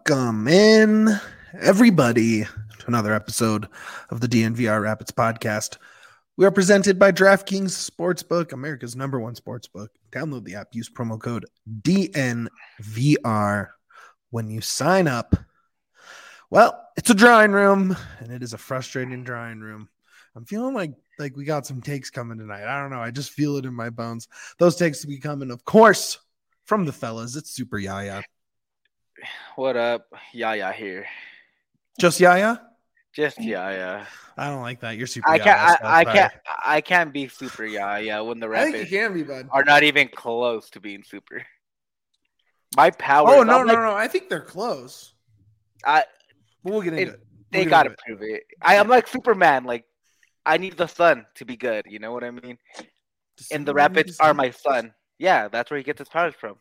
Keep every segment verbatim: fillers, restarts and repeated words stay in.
Welcome in, everybody, to another episode of the D N V R Rapids podcast. We are presented by DraftKings Sportsbook, America's number one sportsbook. Download the app, use promo code D N V R when you sign up. Well, it's a drawing room, and it is a frustrating drawing room. I'm feeling like like we got some takes coming tonight. I don't know. I just feel it in my bones. Those takes will be coming, of course, from the fellas. It's Super Yaya. What up? Yaya here. Just Yaya? Just Yaya. I don't like that. You're Super I Yaya. can't. I, I can't. I can't be Super Yaya when the I think Rapids you can be, bud. are not even close to being super. My power. Oh no, I'm no, like, no! I think they're close. I. But we'll get into It, it. We'll they get gotta into it. prove it. I am like Superman. Like, I need the sun to be good. You know what I mean? Does And the Superman need Rapids to are see- my sun. Yeah, that's where he gets his powers from.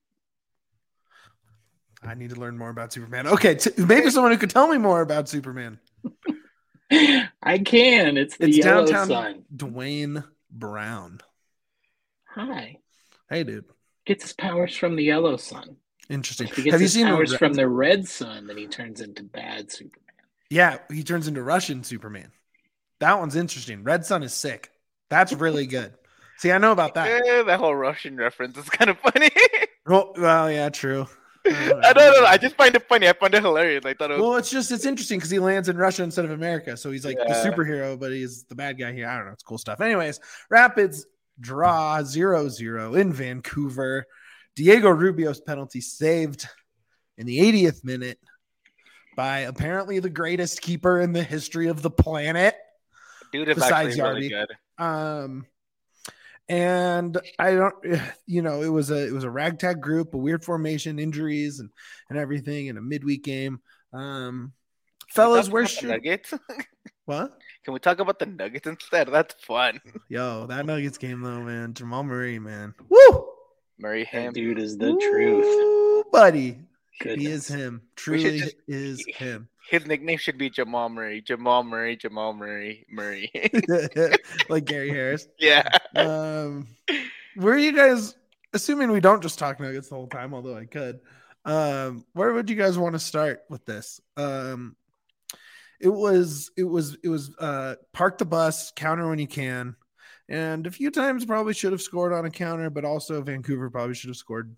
I need to learn more about Superman. Okay, t- maybe someone who could tell me more about Superman. I can. It's the It's yellow downtown sun. Dwayne Brown. Hi. Hey, dude. Gets his powers from the yellow sun. Interesting. If he gets Have you his seen powers Red- from the red sun, then he turns into bad Superman. Yeah, he turns into Russian Superman. That one's interesting. Red Sun is sick. That's really good. See, I know about that. Yeah, that whole Russian reference is kind of funny. Well, well yeah, true. I don't know. I just find it funny. I find it hilarious. I thought it was. Well, it's just it's interesting because he lands in Russia instead of America, so he's like the Yeah. superhero, but he's the bad guy here. I don't know. It's cool stuff. Anyways, Rapids draw zero zero in Vancouver. Diego Rubio's penalty saved in the eightieth minute by apparently the greatest keeper in the history of the planet. Dude is besides actually really Yarby. good. Um, and I don't, you know, it was a it was a ragtag group, a weird formation, injuries, and and everything, in a midweek game. Um, fellas, Talk where about the should Nuggets? what? Can we talk about the Nuggets instead? That's fun. Yo, that Nuggets game though, man. Jamal Murray, man. Woo! Murray That him. dude is the truth. Woo, buddy. Goodness. He is him. We should Truly just- is him. His nickname should be Jamal Murray. Jamal Murray. Jamal Murray. Murray. Like Gary Harris. yeah. Um, where are you guys? Assuming we don't just talk Nuggets the whole time, although I could. Um, where would you guys want to start with this? Um, it was, it was, it was. Uh, park the bus, counter when you can, and a few times probably should have scored on a counter, but also Vancouver probably should have scored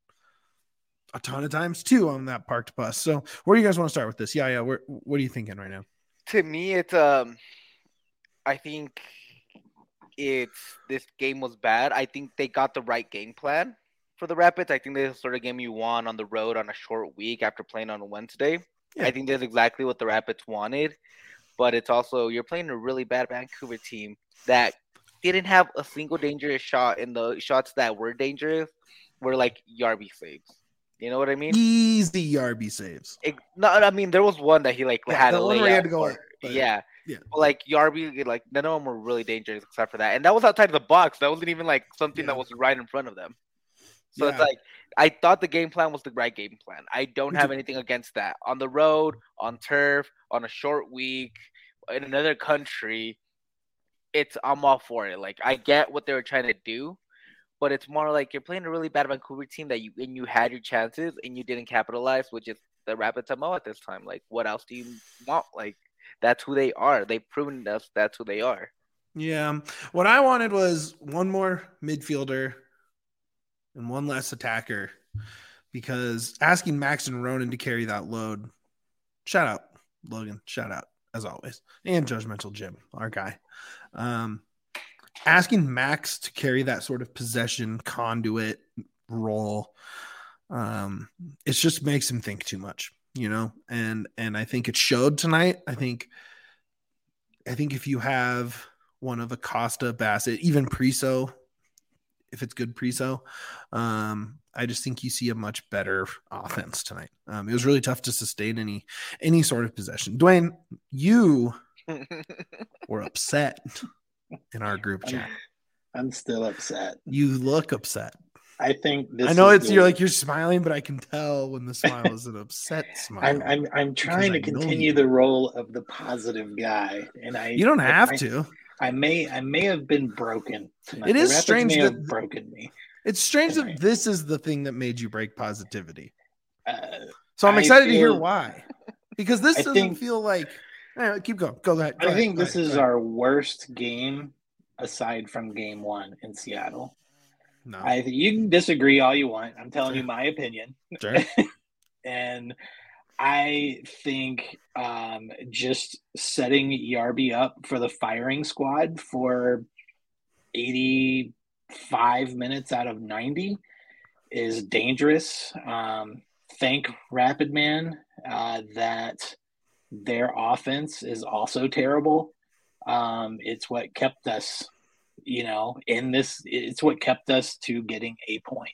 a ton of times too on that parked bus. So, where do you guys want to start with this? Yeah, yeah. Where, what are you thinking right now? To me, it's um. I think it's this game was bad. I think they got the right game plan for the Rapids. I think this is the sort of game you won on the road on a short week after playing on a Wednesday. Yeah. I think that's exactly what the Rapids wanted. But it's also you're playing a really bad Vancouver team that didn't have a single dangerous shot, in the shots that were dangerous were like Yarby saves. You know what I mean? Easy Yarby saves. It, no, I mean there was one that he like Yeah, had the a one where he had layup to go for- up, but- yeah, yeah. But like Yarby, like none of them were really dangerous except for that, and that was outside of the box. That wasn't even like something Yeah. that was right in front of them. So it's Yeah. like I thought the game plan was the right game plan. I don't Me have too. anything against that. On the road, on turf, on a short week, in another country, it's I'm all for it. Like I get what they were trying to do, but it's more like you're playing a really bad Vancouver team that you and you had your chances and you didn't capitalize, which is the Rapids M O at this time. Like what else do you want? Like that's who they are. They've proven us that's who they are. Yeah. What I wanted was one more midfielder and one less attacker, because asking Max and Ronan to carry that load, shout out Logan, shout out as always, and Judgmental Jim, our guy. Um, asking Max to carry that sort of possession conduit role, um, it just makes him think too much, you know, and and I think it showed tonight. I think, I think if you have one of Acosta, Bassett, even Priso, if it's good Priso, um, I just think you see a much better offense tonight. Um, it was really tough to sustain any any sort of possession. Dwayne, you were upset in our group chat. I'm still upset. You look upset. I think this I know is it's the- you're like you're smiling, but I can tell when the smile is an upset smile. I'm I'm I'm trying to I know continue you. the role of the positive guy, and I you don't have I, to. I may I may have been broken tonight. It The is Rapids strange may that- have broken me. It's strange Right. that this is the thing that made you break positivity. Uh, So I'm I excited to hear feel- why. Because this I doesn't think- feel like anyway, keep going. Go ahead. Go I ahead, think go this ahead, is go ahead. our worst game aside from game one in Seattle. No. I you can disagree all you want. I'm telling Sure. you my opinion. Sure. And I think um, just setting E R B up for the firing squad for eighty-five minutes out of ninety is dangerous. Um, thank Rapid Man uh, that their offense is also terrible. Um, it's what kept us, you know, in this. It's what kept us to getting a point.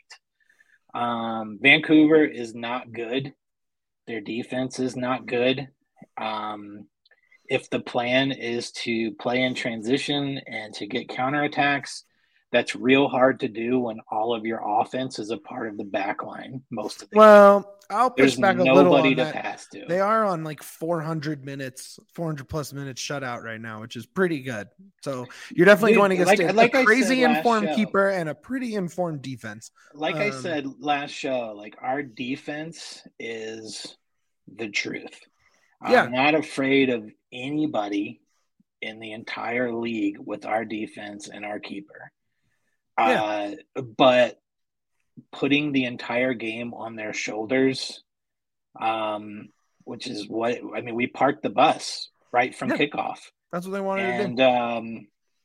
Um, Vancouver is not good. Their defense is not good. Um, if the plan is to play in transition and to get counterattacks, that's real hard to do when all of your offense is a part of the back line most of the Well, I'll game. push There's back a little nobody on to that. pass to. They are on like four hundred minutes, four hundred plus minutes shutout right now, which is pretty good. So you're definitely Dude, going against like- a, like a I crazy said last informed show. keeper and a pretty informed defense. Like I Um, said last show, like our defense is the truth. Yeah. I'm not afraid of anybody in the entire league with our defense and our keeper. Yeah. Uh, but putting the entire game on their shoulders, um, which is what I mean, we parked the bus right from Yeah. kickoff, That's what they wanted to and do. um,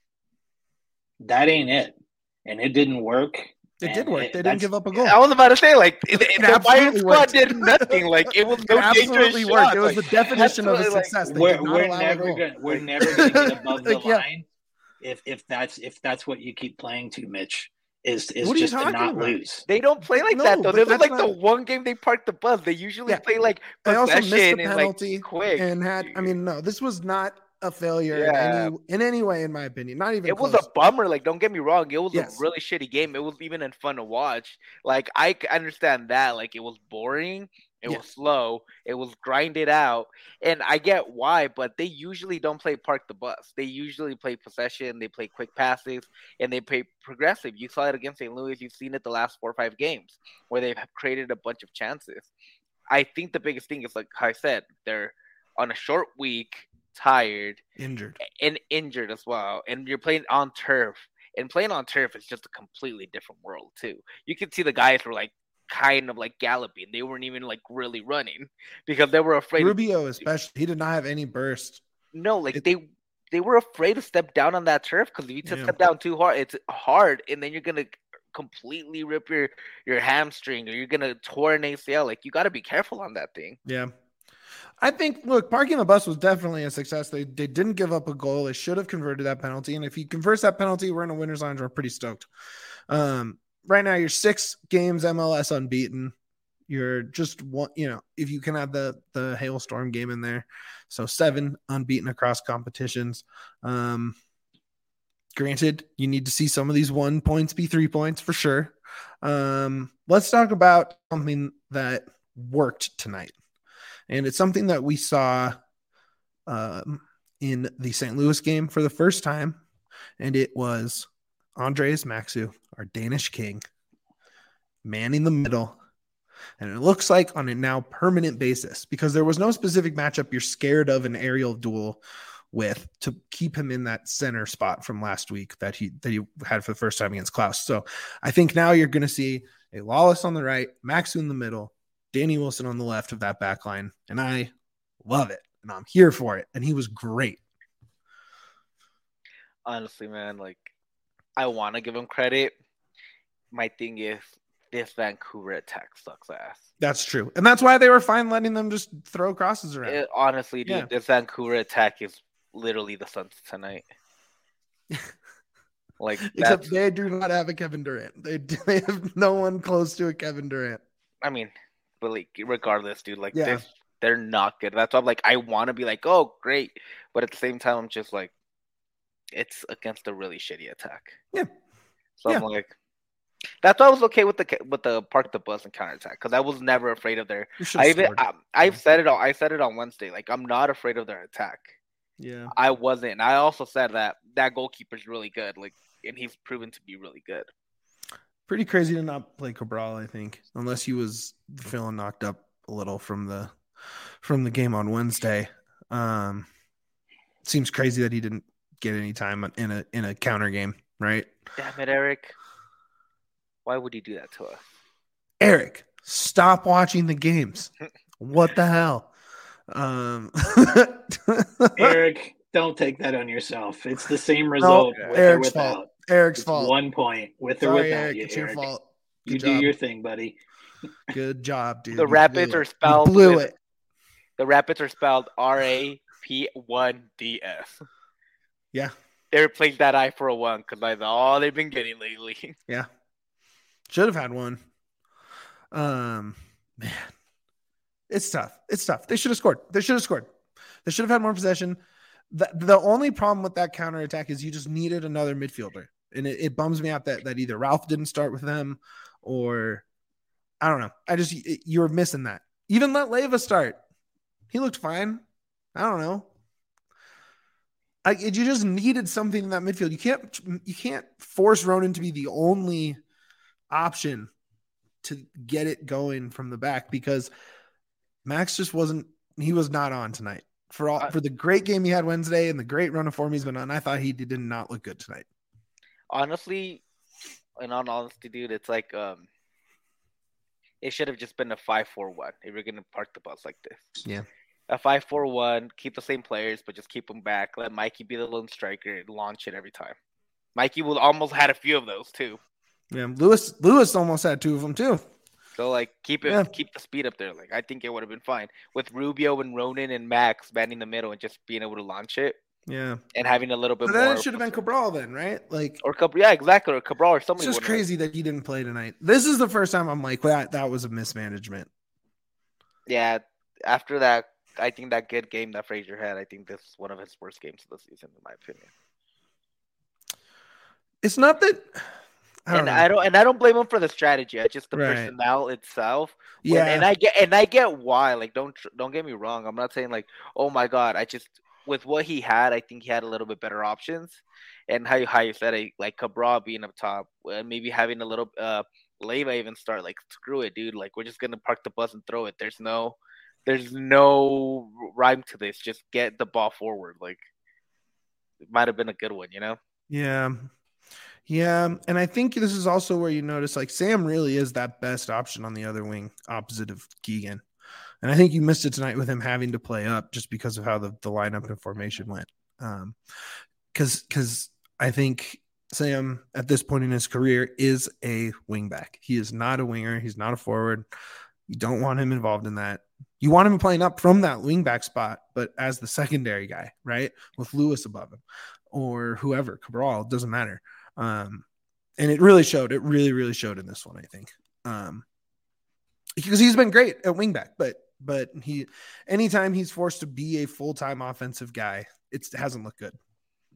that ain't it. And it didn't work. It and did work. it- they didn't that's- give up a goal. I was about to say, like, the, It the Bayern absolutely squad worked. did nothing. Like, it was no It absolutely dangerous worked. shots. It was Like, the definition of a that's what, like, success. They we're did not we're allow a never goal. gonna we're Like- never gonna get above the Like, yeah. line if if that's if that's what you keep playing to, Mitch. Is is What are you just to talking not about? lose. They don't play like No, that though. but This was that's like the not- one game they parked the bus. They usually Yeah. play like They also missed possession the and penalty like quick. and had. I mean, no, this was not a failure in Yeah. any in any way, in my opinion. Not even. It was close. a bummer. Like, don't get me wrong. It was Yes. a really shitty game. It was even fun to watch. Like, I c- understand that. Like, it was boring. It Yeah. was slow. It was grinded out. And I get why, but they usually don't play park the bus. They usually play possession. They play quick passes, and they play progressive. You saw it against Saint Louis. You've seen it the last four or five games where they've created a bunch of chances. I think the biggest thing is, like I said, they're on a short week, tired, Injured. and injured as well. And you're playing on turf. And playing on turf is just a completely different world too. You can see the guys were like kind of like galloping. They weren't even like really running because they were afraid. Rubio, especially, he did not have any burst. No, like It- they they were afraid to step down on that turf because if you just Yeah. step down too hard, it's hard, and then you're gonna completely rip your your hamstring or you're gonna tore an A C L. Like, you got to be careful on that thing. Yeah. I think, look, parking the bus was definitely a success. They they didn't give up a goal. They should have converted that penalty. And if he converts that penalty, we're in a winner's line. We're pretty stoked. Um, right now, you're six games M L S unbeaten. You're just one, you know, if you can have the the hailstorm game in there. So seven unbeaten across competitions. Um, granted, you need to see some of these one points be three points for sure. Um, let's talk about something that worked tonight. And it's something that we saw um, in the Saint Louis game for the first time. And it was Andreas Maxu, our Danish king, manning the middle. And it looks like on a now permanent basis, because there was no specific matchup you're scared of an aerial duel with to keep him in that center spot from last week that he that he had for the first time against Klaus. So I think now you're going to see a Lawless on the right, Maxu in the middle, Danny Wilson on the left of that back line. And I love it. And I'm here for it. And he was great. Honestly, man, like, I want to give him credit. My thing is, this Vancouver attack sucks ass. That's true. And that's why they were fine letting them just throw crosses around. It, honestly, dude, Yeah. this Vancouver attack is literally the Suns tonight. Like, Except that's, they do not have a Kevin Durant. They, they have no one close to a Kevin Durant. I mean, but like, regardless, dude, like, Yeah. this, they're not good. That's why I'm like, I want to be like, oh, great. But at the same time, I'm just like, it's against a really shitty attack. Yeah. So Yeah. I'm like, that's why I was okay with the with the park the bus and counterattack because I was never afraid of their. You should I have even scored. I, I've said it all. I said it on Wednesday. Like, I'm not afraid of their attack. Yeah. I wasn't. I also said that that goalkeeper's really good. Like, and he's proven to be really good. Pretty crazy to not play Cabral, I think, unless he was feeling knocked up a little from the from the game on Wednesday. Um, seems crazy that he didn't get any time in a in a counter game, right? Damn it, Eric. Why would he do that to us? Eric, stop watching the games. What the hell? Um, Eric, don't take that on yourself. It's the same result no, with Eric's or without. fault. Eric's it's fault. One point with Sorry, or without Eric, you, it's Eric. your fault. Good you job. do your thing, buddy. Good job, dude. The you Rapids are spelled. You blew with, it. The Rapids are spelled R A P one D S. Yeah. They replaced that I for a one because that's all they've been getting lately. Yeah. Should have had one. Um, man, it's tough. It's tough. They should have scored. They should have scored. They should have had more possession. The, the only problem with that counterattack is you just needed another midfielder. And it, it bums me out that, that either Ralph didn't start with them or I don't know. I just, you were missing that. Even let Leyva start. He looked fine. I don't know. I, you just needed something in that midfield. You can't, you can't force Ronan to be the only option to get it going from the back because Max just wasn't, he was not on tonight for all, for the great game he had Wednesday and the great run of form he's been on. I thought he did not look good tonight. Honestly, in all honesty, dude, it's like, um, it should have just been a five four one if you're going to park the bus like this. Yeah. A five four one, keep the same players, but just keep them back. Let Mikey be the lone striker and launch it every time. Mikey will almost had a few of those too. Yeah, Lewis Lewis almost had two of them too. So like keep it, yeah. keep the speed up there. Like I think it would have been fine with Rubio and Ronan and Max manning the middle and just being able to launch it. Yeah, and having a little bit but more. Then it should have been Cabral then, right? Like or Cabral, yeah, exactly. Or Cabral or somebody. It's just crazy have. that he didn't play tonight. This is the first time I'm like, that that was a mismanagement. Yeah, after that. I think that good game that Frazier had, I think this is one of his worst games of the season, in my opinion. It's not that, I don't and know. I don't, and I don't blame him for the strategy. I just the right. personnel itself. When, yeah, and I get, and I get why. Like, don't don't get me wrong. I'm not saying like, oh my god. I just with what he had, I think he had a little bit better options. And how you how you said it, like Cabral being up top, and maybe having a little uh, Leyva even start. Like, screw it, dude. Like, we're just gonna park the bus and throw it. There's no. There's no rhyme to this. Just get the ball forward. Like, it might have been a good one, you know? Yeah. Yeah. And I think this is also where you notice, like, Sam really is that best option on the other wing, opposite of Keegan. And I think you missed it tonight with him having to play up just because of how the, the lineup and formation went. Um, because because I think Sam, at this point in his career, is a wingback. He is not a winger. He's not a forward. You don't want him involved in that. You want him playing up from that wingback spot, but as the secondary guy, right? With Lewis above him or whoever, Cabral, doesn't matter. Um, and it really showed. It really, really showed in this one, I think. Um, because he's been great at wingback, but but he, anytime he's forced to be a full-time offensive guy, it's, it hasn't looked good.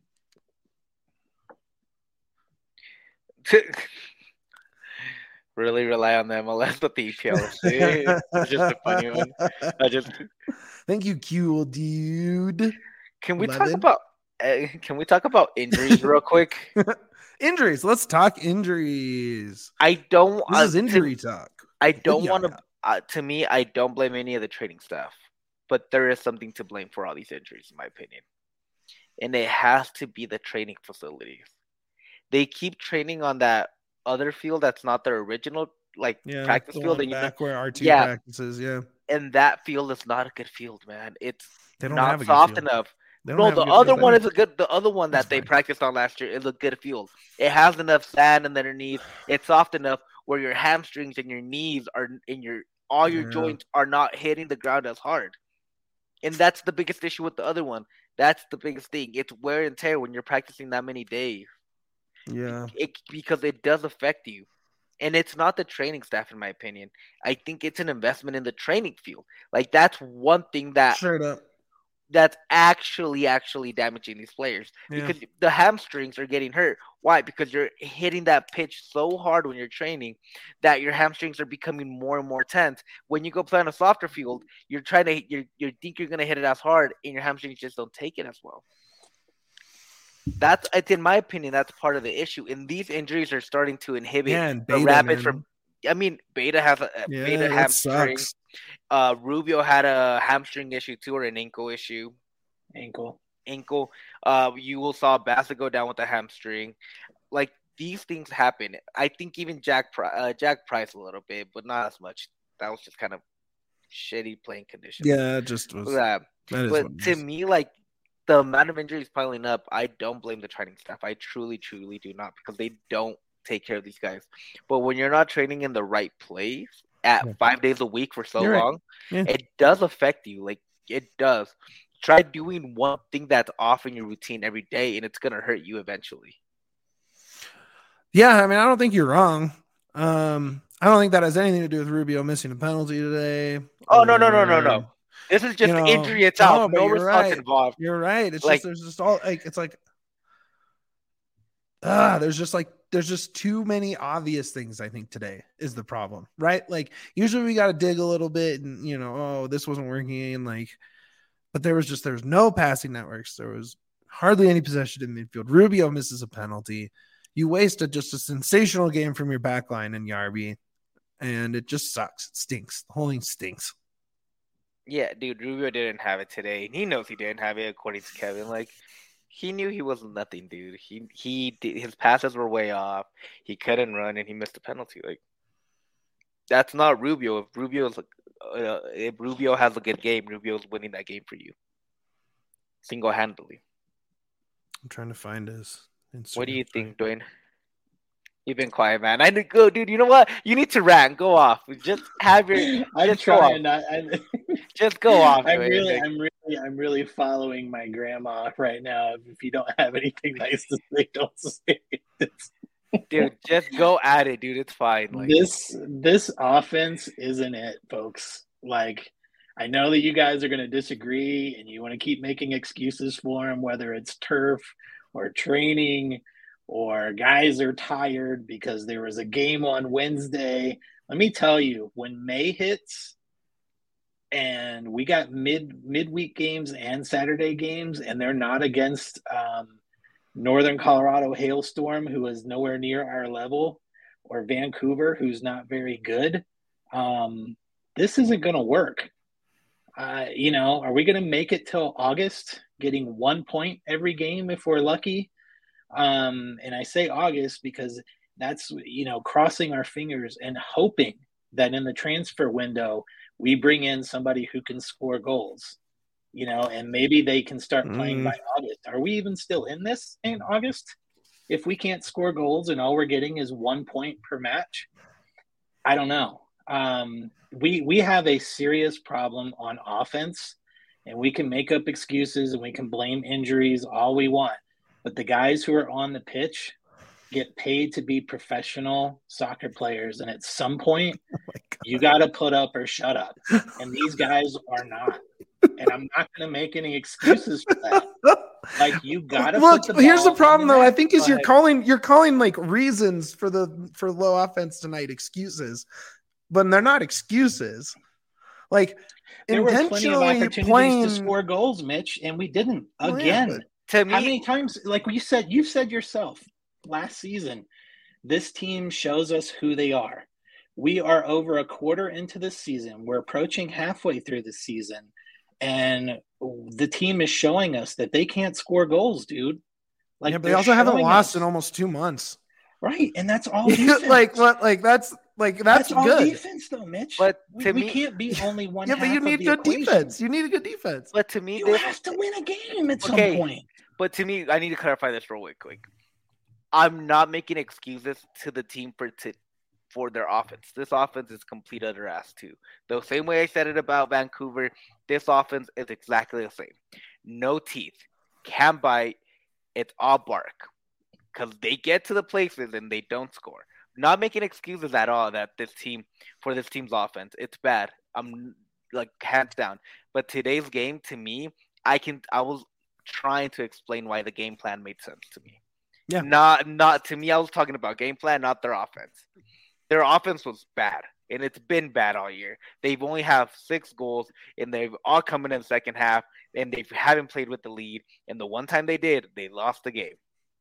Really rely on the M L S with the E P L. It's just a funny one. I just thank you, cool dude. Can we eleven? talk about? Uh, can we talk about injuries real quick? Injuries. Let's talk injuries. I don't. This uh, is injury to, talk. I don't want to. Uh, to me, I don't blame any of the training staff, but there is something to blame for all these injuries, in my opinion, and it has to be the training facilities. They keep training on that other field that's not their original like yeah, practice field and back you know, where R two yeah. practices, yeah. And that field is not a good field, man. It's they don't not have a soft good field. enough. No, the other one is a good. The other one that that's they fine. practiced on last year is a good field. It has enough sand underneath. It's soft enough where your hamstrings and your knees are in your all your yeah. joints are not hitting the ground as hard. And that's the biggest issue with the other one. That's the biggest thing. It's wear and tear when you're practicing that many days. Yeah, it, because it does affect you. And it's not the training staff, in my opinion. I think it's an investment in the training field. Like, that's one thing that straight up. that's actually, actually damaging these players. Yeah. Because the hamstrings are getting hurt. Why? Because you're hitting that pitch so hard when you're training that your hamstrings are becoming more and more tense. When you go play on a softer field, you're trying to you you think you're going to hit it as hard, and your hamstrings just don't take it as well. That's, in my opinion, that's part of the issue. And these injuries are starting to inhibit man, the Beta, Rapids man. from. I mean, Beta has a yeah, Beta hamstring. Sucks. Uh, Rubio had a hamstring issue too, or an ankle issue. Ankle. Ankle. Uh, you will saw Bassett go down with a hamstring. Like these things happen. I think even Jack uh, Jack Price a little bit, but not as much. That was just kind of shitty playing conditions. Yeah, it just was. Yeah. But to is. me, like the amount of injuries piling up, I don't blame the training staff. I truly, truly do not, because they don't take care of these guys. But when you're not training in the right place at yeah. five days a week for so you're long, right. yeah. it does affect you. Like it does. Try doing one thing that's off in your routine every day, and it's gonna hurt you eventually. Yeah, I mean, I don't think you're wrong. Um, I don't think that has anything to do with Rubio missing a penalty today. Oh, or, no, no, no, no, no. This is just you know, injury itself. No, no response right. involved. You're right. It's like, just there's just all like it's like ah, there's just like there's just too many obvious things. I think today is the problem, right? Like usually we got to dig a little bit, and you know, oh, this wasn't working, and like, but there was just there was no passing networks. There was hardly any possession in midfield. Rubio misses a penalty. You wasted just a sensational game from your back line in Yarby, and it just sucks. It stinks. The whole thing stinks. Yeah, dude, Rubio didn't have it today, and he knows he didn't have it, according to Kevin. Like, he knew he wasn't nothing, dude. He he did, his passes were way off. He couldn't run, and he missed a penalty. Like, that's not Rubio. If Rubio's uh, if Rubio has a good game, Rubio's winning that game for you, single handedly. I'm trying to find his Instagram. What do you think, Dwayne? You've been quiet, man. I need to go, dude. You know what? You need to rant. Go off. Just have your. I'm just trying. Not, I'm, just go off. I'm Dwayne. really, I'm really, I'm really following my grandma right now. If you don't have anything nice to say, don't say it. Dude, just go at it, dude. It's fine. Like, this, this offense isn't it, folks. Like, I know that you guys are going to disagree, and you want to keep making excuses for him, whether it's turf or training. Or guys are tired because there was a game on Wednesday. Let me tell you, when May hits and we got mid midweek games and Saturday games, and they're not against um, Northern Colorado Hailstorm, who is nowhere near our level, or Vancouver, who's not very good, um, this isn't going to work. Uh, you know, are we going to make it till August, getting one point every game if we're lucky? Um, and I say August because that's, you know, crossing our fingers and hoping that in the transfer window, we bring in somebody who can score goals, you know, and maybe they can start playing mm. by August. Are we even still in this in August? If we can't score goals and all we're getting is one point per match, I don't know. Um, we, we have a serious problem on offense, and we can make up excuses and we can blame injuries all we want. But the guys who are on the pitch get paid to be professional soccer players. And at some point, oh you got to put up or shut up. And these guys are not. And I'm not going to make any excuses for that. Like, you got to look. Put the here's the problem, though. I think is but... you're calling you're calling like reasons for the for low offense tonight excuses, but they're not excuses. Like there intentionally were plenty of opportunities playing... to score goals, Mitch, and we didn't again. Yeah, but... To me, how many times, like you said, you said yourself last season, this team shows us who they are. We are over a quarter into the season. We're approaching halfway through the season, and the team is showing us that they can't score goals, dude. Like, yeah, but they also haven't lost us. in almost two months. Right, and that's all defense. like what? Like that's like that's, that's all good defense, though, Mitch. But we, to we me, can't be only one. Yeah, but you need good equation. defense. You need a good defense. But to me, you this... have to win a game at okay. some point. But to me, I need to clarify this real quick. quick. I'm not making excuses to the team for to for their offense. This offense is complete utter ass too. The same way I said it about Vancouver, this offense is exactly the same. No teeth, can't bite. It's all bark because they get to the places and they don't score. Not making excuses at all that this team for this team's offense. It's bad. I'm like hands down. But today's game, to me, I can. I was. trying to explain why the game plan made sense to me. Yeah. Not not to me, I was talking about game plan, not their offense. Their offense was bad, and it's been bad all year. They've only have six goals, and they've all come in in the second half, and they haven't played with the lead. And the one time they did, they lost the game.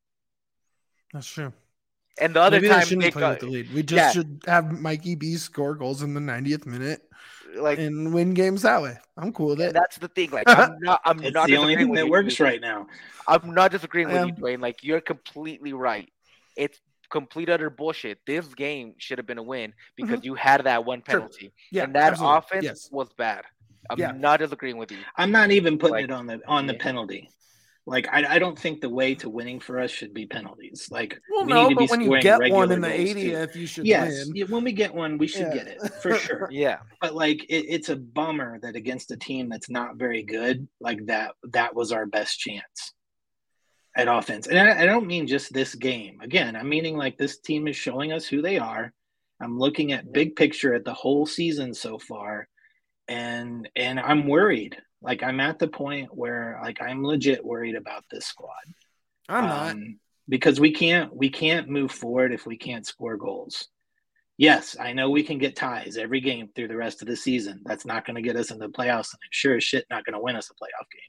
That's true. And the other Maybe time they shouldn't they play got, with the lead. We just yeah. should have Mikey B score goals in the ninetieth minute. like and win games that way. I'm cool with it. That's the thing. Like I'm not. I'm It's not the only disagreeing thing with that you, works dude. right now. I'm not disagreeing with Um, you, Dwayne. Like you're completely right. It's complete utter bullshit. This game should have been a win because you had that one Sure. penalty, Yeah, and that absolutely. offense Yes. was bad. I'm Yeah. not disagreeing with you. I'm not even putting Like, it on the on the yeah. penalty. Like I, I don't think the way to winning for us should be penalties. Like Well, we no, need to be but when you scoring get regular one in the goals, too. eightieth, you should Yes, win. yeah, when we get one, we should Yeah. get it for sure. Yeah. But like it, it's a bummer that against a team that's not very good, like that, that was our best chance at offense. And I, I don't mean just this game. Again, I'm meaning like this team is showing us who they are. I'm looking at big picture at the whole season so far, and and I'm worried. Like I'm at the point where like I'm legit worried about this squad. I'm not. Um, because we can't we can't move forward if we can't score goals. Yes, I know we can get ties every game through the rest of the season. That's not going to get us in the playoffs, and it's sure as shit not going to win us a playoff game.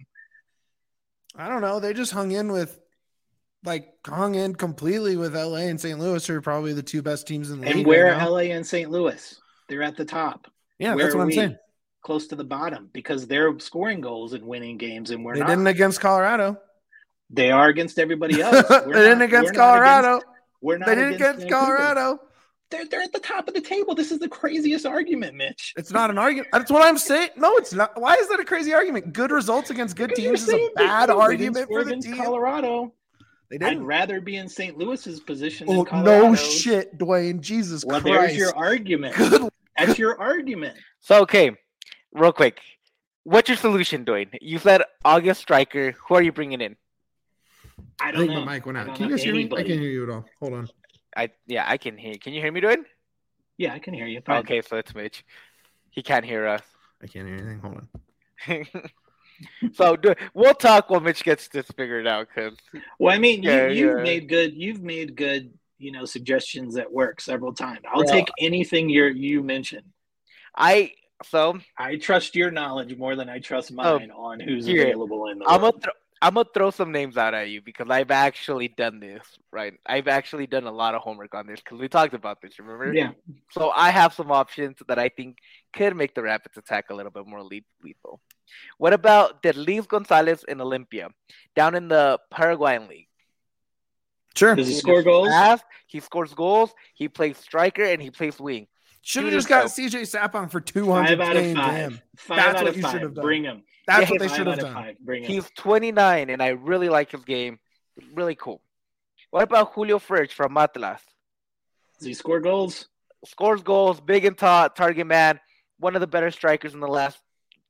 I don't know. They just hung in with, like, hung in completely with L A and Saint Louis, who are probably the two best teams in the And league. where right now. L A and Saint Louis? They're at the top. Yeah, where that's what are I'm we? saying. Close to the bottom because they're scoring goals and winning games, and we're They not. didn't against Colorado. They are against everybody else. They We're didn't not- against we're not Colorado. against- We're not They didn't against against Vancouver. Colorado. They're, they're at the top of the table. This is the craziest argument, Mitch. It's not an argument. That's what I'm saying. No, it's not. Why is that a crazy argument? Good results against good Because teams is you're a saying they- bad they didn't argument score for the against team. Colorado. They I'd didn't. rather be in Saint Louis's position Oh, than Colorado. no shit, Dwayne. Jesus Well, Christ. there's your argument. Good. That's your argument. So okay, real quick, what's your solution, Dwayne? You said August striker. Who are you bringing in? I I don't think know. my mic went I out. don't Can you know guys hear me? I anybody. can't hear you at all. Hold on. I yeah, I can hear. Can you hear me, Dwayne? Yeah, I can hear you. Fine. Okay, so it's Mitch. He can't hear us. I can't hear anything. Hold on. So do, we'll talk while Mitch gets this figured out. Cause Well, I mean, Yeah, you, you've yeah. made good. You've made good. You know, suggestions at work several times. I'll Well- take anything you you mentioned. I so I trust your knowledge more than I trust mine on who's here. available in the I'm world. gonna throw I'm gonna throw some names out at you because I've actually done this. Right, I've actually done a lot of homework on this because we talked about this. Remember? Yeah. So I have some options that I think could make the Rapids attack a little bit more le- lethal. What about Derlis Gonzalez in Olympia, down in the Paraguayan league? Sure. Does he score goals? Fast, he scores goals. He plays striker and he plays wing. Should have Dude, just got so- C J Sapong for two Five hundred out of K five. damn. Five That's out what of you should five. have done. Bring him. That's Yeah, what they Five should out have of done. five. Bring him. He's twenty-nine, and I really like his game. Really cool. What about Julio Furch from Atlas? Does he score goals? Scores goals, big and tall, target man. One of the better strikers in the last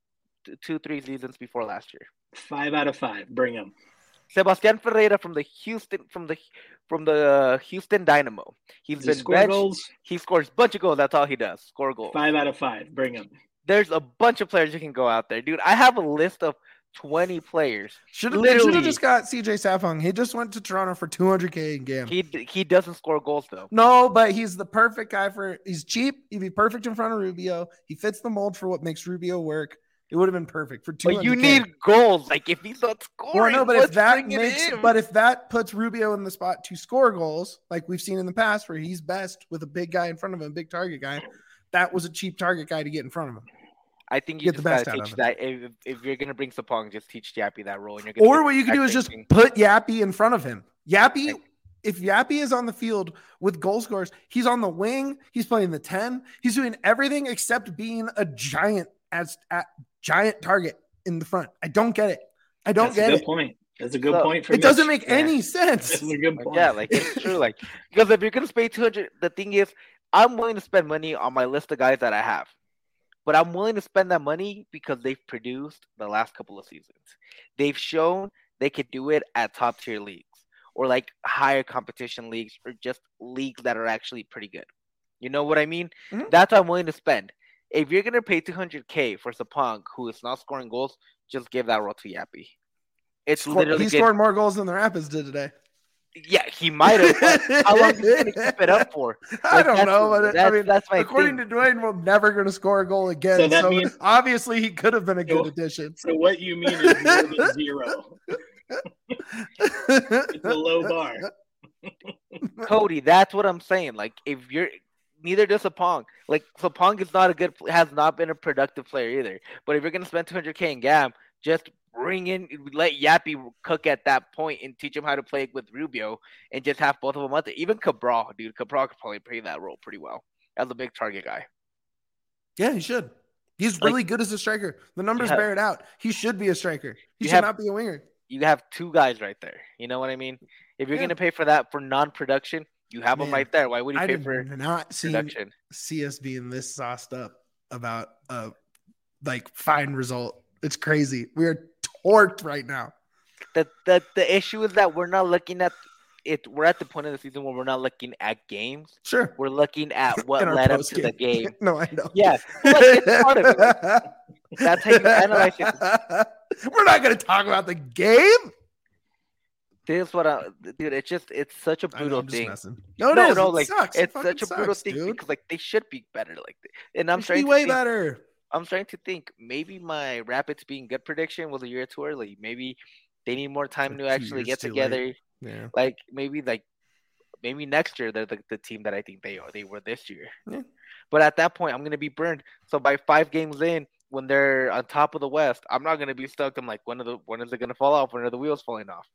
t- two, three seasons before last year. Five out of five. Bring him. Sebastian Ferreira from the Houston from the from the Houston Dynamo. He's Does he been score benched. goals? He scores a bunch of goals. That's all he does. Score goals. Five out of five. Bring him. There's a bunch of players you can go out there, dude. I have a list of twenty players. Should have should Literally. have just got C J Sapong. He just went to Toronto for two hundred K in game. He he doesn't score goals though. No, but he's the perfect guy for. He's cheap. He'd be perfect in front of Rubio. He fits the mold for what makes Rubio work. It would have been perfect for two hundred But K. you need goals. Like if he's not scoring, Well, no, but if let's that bring it makes, in. but if that puts Rubio in the spot to score goals, like we've seen in the past, where he's best with a big guy in front of him, a big target guy, that was a cheap target guy to get in front of him. I think you get just the best gotta out teach of that. If, if you're gonna bring Sapong, just teach Yappy that role. And you're gonna Or get what you the can do is exact just same thing. put Yappy in front of him. Yappy, Okay. if Yappy is on the field with goal scorers, he's on the wing, he's playing the ten, he's doing everything except being a giant as a giant target in the front. I don't get it. I don't That's a get good it. point. That's a good So, point for It doesn't Mitch. make any sense. That's a good Like, point. yeah, like it's true. Like because if you're gonna spend two hundred, the thing is, I'm willing to spend money on my list of guys that I have, but I'm willing to spend that money because they've produced the last couple of seasons. They've shown they could do it at top tier leagues or like higher competition leagues or just leagues that are actually pretty good. You know what I mean? Mhm. That's what I'm willing to spend. If you're gonna pay two hundred K for Sapong, who is not scoring goals, just give that role to Yappy. It's Score- literally he good- scored more goals than the Rapids did today. Yeah, he might have. but How long is he gonna keep it up for? I Like, don't that's- know, but it- I that's, mean, that's my according thing. to Dwayne, we're never going to score a goal again. So So, that means- obviously he could have been a good So- addition. So what you mean is more than zero. It's a low bar. Cody, that's what I'm saying. Like, if you're neither does Sapong. Like Sapong is not a good, has not been a productive player either. But if you're gonna spend two hundred K in Gam, just bring in, let Yappy cook at that point and teach him how to play with Rubio, and just have both of them out there. Even Cabral, dude, Cabral could probably play that role pretty well as a big target guy. Yeah, he should. He's really like, good as a striker. The numbers have, bear it out. He should be a striker. He should have, not be a winger. You have two guys right there. You know what I mean? If you're yeah. gonna pay for that for non-production, you have Man, them right there. Why would you pay I did for not production? See us being this sauced up about a like fine result. It's crazy. We are torqued right now. The the the issue is that we're not looking at it. We're at the point of the season where we're not looking at games. Sure, we're looking at what led up to the game. No, I know. Yeah, but it's part of it. Like, that's how you analyze it. We're not going to talk about the game. This is what I, dude. It's just it's such a brutal know, thing. No, it no, is. no, it like sucks. it's it such a brutal sucks, thing dude. because like they should be better. Like, and I'm they starting be to way think, better. I'm starting to think maybe my Rapids being good prediction was a year too early. Maybe they need more time like to actually get together. Late. Yeah. Like maybe like maybe next year they're the, the team that I think they are. They were this year. Yeah. But at that point, I'm gonna be burned. So by five games in, when they're on top of the West, I'm not gonna be stuck. I'm like, when are the when is it gonna fall off? When are the wheels falling off?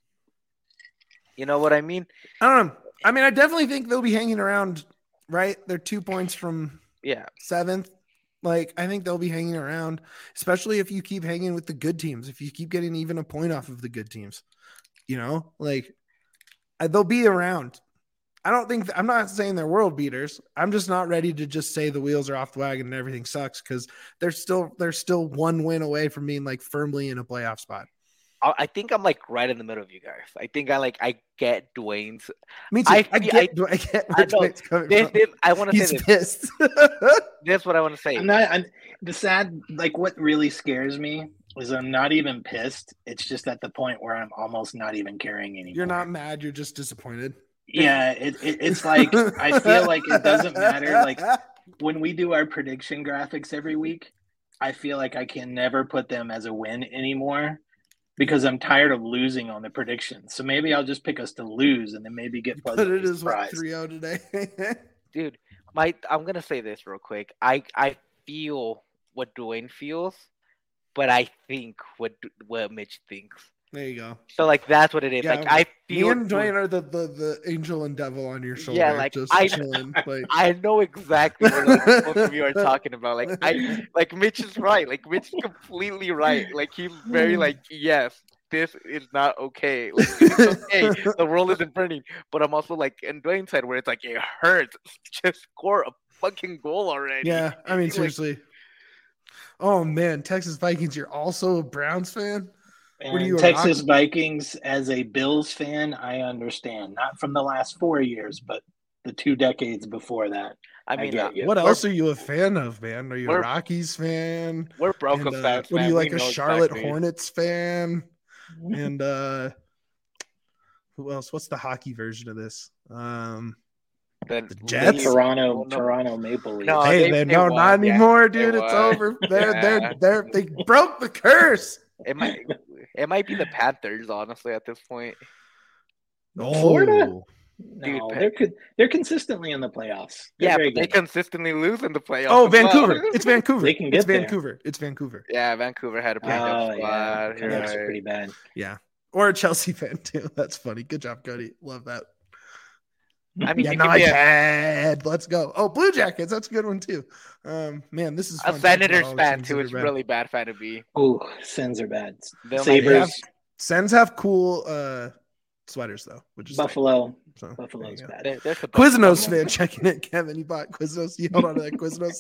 You know what I mean? I don't know. I mean, I definitely think they'll be hanging around. Right? They're two points from yeah seventh. Like, I think they'll be hanging around, especially if you keep hanging with the good teams. If you keep getting even a point off of the good teams, you know, like they'll be around. I don't think th- I'm not saying they're world beaters. I'm just not ready to just say the wheels are off the wagon and everything sucks because they're still they're still one win away from being like firmly in a playoff spot. I think I'm like right in the middle of you guys. I think I like I get Dwayne's. Me too. I, I get. I, I get where I Dwayne's coming this, from. This, I want to say this. Pissed. That's what I want to say. I'm not. I'm, the sad, like, what really scares me is I'm not even pissed. It's just at the point where I'm almost not even caring anymore. You're not mad. You're just disappointed. Yeah, it, it, it's like I feel like it doesn't matter. Like when we do our prediction graphics every week, I feel like I can never put them as a win anymore. Because I'm tired of losing on the predictions. So maybe I'll just pick us to lose and then maybe get pleasantly surprised. But it is what three oh today. Dude, my I'm gonna say this real quick. I, I feel what Dwayne feels, but I think what what Mitch thinks. There you go. So like that's what it is. Yeah, like I feel me and Dwayne are the, the, the angel and devil on your shoulder. Yeah, like just I, chilling, like I know exactly what like, both of you are talking about. Like I like Mitch is right. Like Mitch is completely right. Like he's very like yes, this is not okay. Like it's okay. The world isn't burning. But I'm also like in Dwayne's side where it's like it hurts. Just score a fucking goal already. Yeah, I mean like, seriously. Oh man, Texas Vikings. You're also a Browns fan. And Texas rock- Vikings, as a Bills fan, I understand. Not from the last four years, but the two decades before that. I mean, I uh, what else are you a fan of, man? Are you a Rockies fan? We're Broncos uh, fans. What are you like we a Charlotte exactly. Hornets fan? And uh, who else? What's the hockey version of this? Um, the, the Jets, Toronto, well, no. Toronto Maple Leafs. No, hey, they, they, no, won. not anymore, yeah, dude. It's over. They're, yeah. they're, they're, they broke the curse. It might, it might be the Panthers, honestly, at this point. Oh. Florida? Dude, no, they're they're consistently in the playoffs. They're yeah, but they consistently lose in the playoffs. Oh, Vancouver! Well. It's Vancouver. They can get it's there. Vancouver. It's Vancouver. Yeah, Vancouver had a pretty oh, good yeah. squad. That's right. pretty bad. Yeah, or a Chelsea fan too. That's funny. Good job, Cody. Love that. I mean, yeah, you no, could I be a- had. Let's go. Oh, Blue Jackets. That's a good one too. Um, man, this is a fun Senators talking about all the fan teams too. that It's are bad. really bad fan to be. Oh, Sens are bad. They might Sabres, have- Sens have cool uh sweaters though, which is Buffalo. tight. So, Buffalo's there you go. bad. They're, they're the Quiznos fan checking in. Kevin, you bought Quiznos. You held on to that Quiznos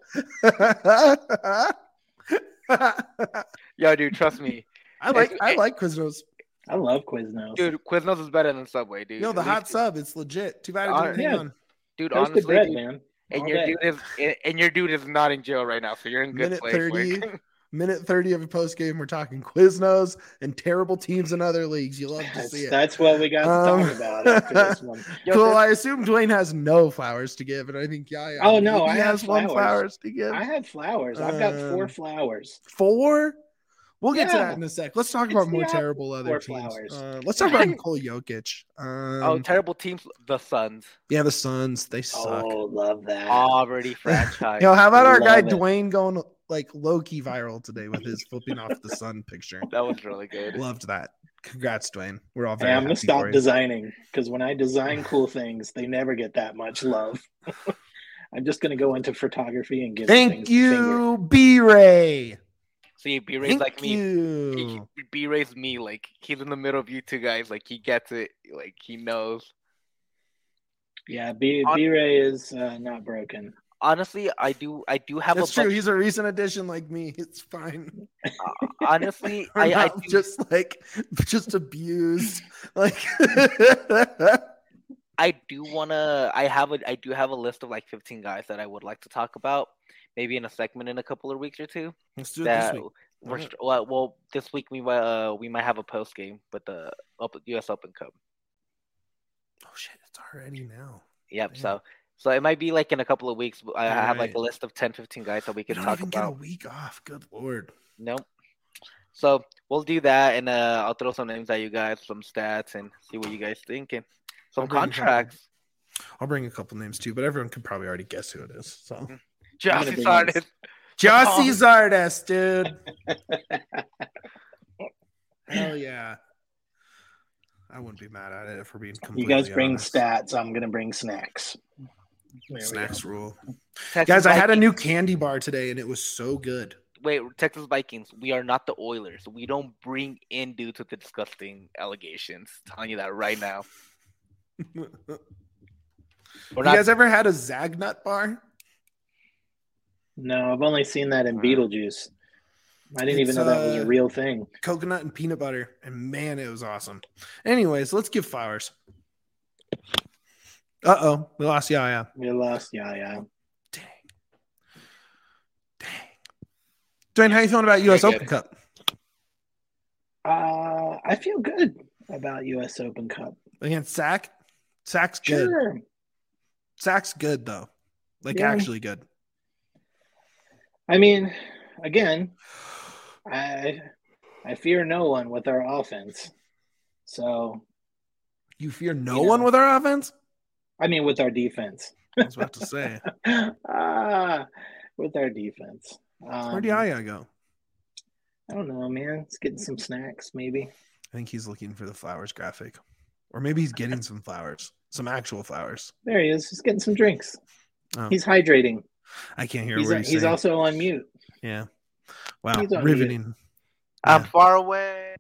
stock. Yo, dude, trust me. I like I like Quiznos. I love Quiznos. Dude, Quiznos is better than Subway, dude. Yo, the At hot least- sub, it's legit. Too bad it Uh, didn't hang yeah. on. Dude, Toasted honestly, bread, dude, man. and All your day. dude is and your dude is not in jail right now, so you're in good Minute place. thirty. Like, Minute thirty of a post game. We're talking Quiznos and terrible teams in other leagues. You love to That's, see it. that's what we got to Um, talk about after this one. Yo, Cool. this- I assume Dwayne has no flowers to give, and I think Yaya. Oh, no, maybe I have has one flowers. flowers to give. I have flowers. I've got four Um, flowers. Four? We'll get to Yeah. that in a sec. Let's talk It's about the more opposite terrible other for teams. Flowers. Uh, let's talk about Nikola Jokic. Um, Oh, terrible teams. The Suns yeah, the Suns. They suck. Oh, love that. already franchise. Yo, how about our guy Love it. Dwayne going like low key viral today with his flipping off the sun picture? That was really good. Loved that. Congrats, Dwayne. We're all Hey, very I'm gonna happy stop for you. designing because when I design cool things, they never get that much love. I'm just gonna go into photography and give Thank things the finger. you, B-Ray. See, B Ray's Thank like me. you. B Ray's me. Like he's in the middle of you two guys. Like he gets it. Like he knows. Yeah, B On- B Ray is uh, not broken. Honestly, I do. I do have That's a true. bunch. He's a recent addition like me. It's fine. uh, honestly, We're I, I not do, just like just abused. Like I do wanna. I have a. I do have a list of like fifteen guys that I would like to talk about. Maybe in a segment in a couple of weeks or two. let's do it That this week. we're Alright. st- well, well, this week we might uh, we might have a post game with the Open, U S Open Cup. Oh shit, it's already now. Yep. Damn. So so it might be like in a couple of weeks. I have like Alright. a list of ten, fifteen guys that we You can don't talk even about. get a week off. Good lord. Nope. So we'll do that, and uh, I'll throw some names at you guys, some stats, and see what you guys think, and some I'll bring a couple. contracts. I'll bring a couple names too, but everyone could probably already guess who it is. So I'm Josh gonna bring Sardes. Jossie Zardes, dude. Hell yeah. I wouldn't be mad at it if we're being You completely guys bring honest. stats. I'm gonna bring snacks. There we Snacks go. rule. Texas Guys, I had a Vikings- new candy bar today and it was so good. Wait, Texas Vikings. We are not the Oilers. We don't bring in dudes with the disgusting allegations. Telling you that right now. you We're not. guys ever had a Zagnut bar? No, I've only seen that in Uh, Beetlejuice. I didn't even It's, know that was uh, a real thing. Coconut and peanut butter. And man, it was awesome. Anyways, let's give flowers. Uh-oh. We lost Yaya. We lost. Yeah, yeah. Dang. Dang. Dwayne, how you feeling about U S Very Open good. Cup? Uh, I feel good about U S Open Cup. Against Sack? Sack's good. Sure. Sack's good, though. Like, Yeah. actually good. I mean, again, I I fear no one with our offense. So, You fear no You one know. with our offense? I mean, with our defense. I was about to say. ah, with our defense. Um, Where'd Yaya go? I don't know, man. It's getting some snacks, maybe. I think he's looking for the flowers graphic. Or maybe he's getting some flowers. Some actual flowers. There he is. He's getting some drinks. Oh. He's hydrating. I can't hear He's, what he's, he's saying. also on mute. Yeah. Wow. He's on Riveting. I'm Yeah. far away.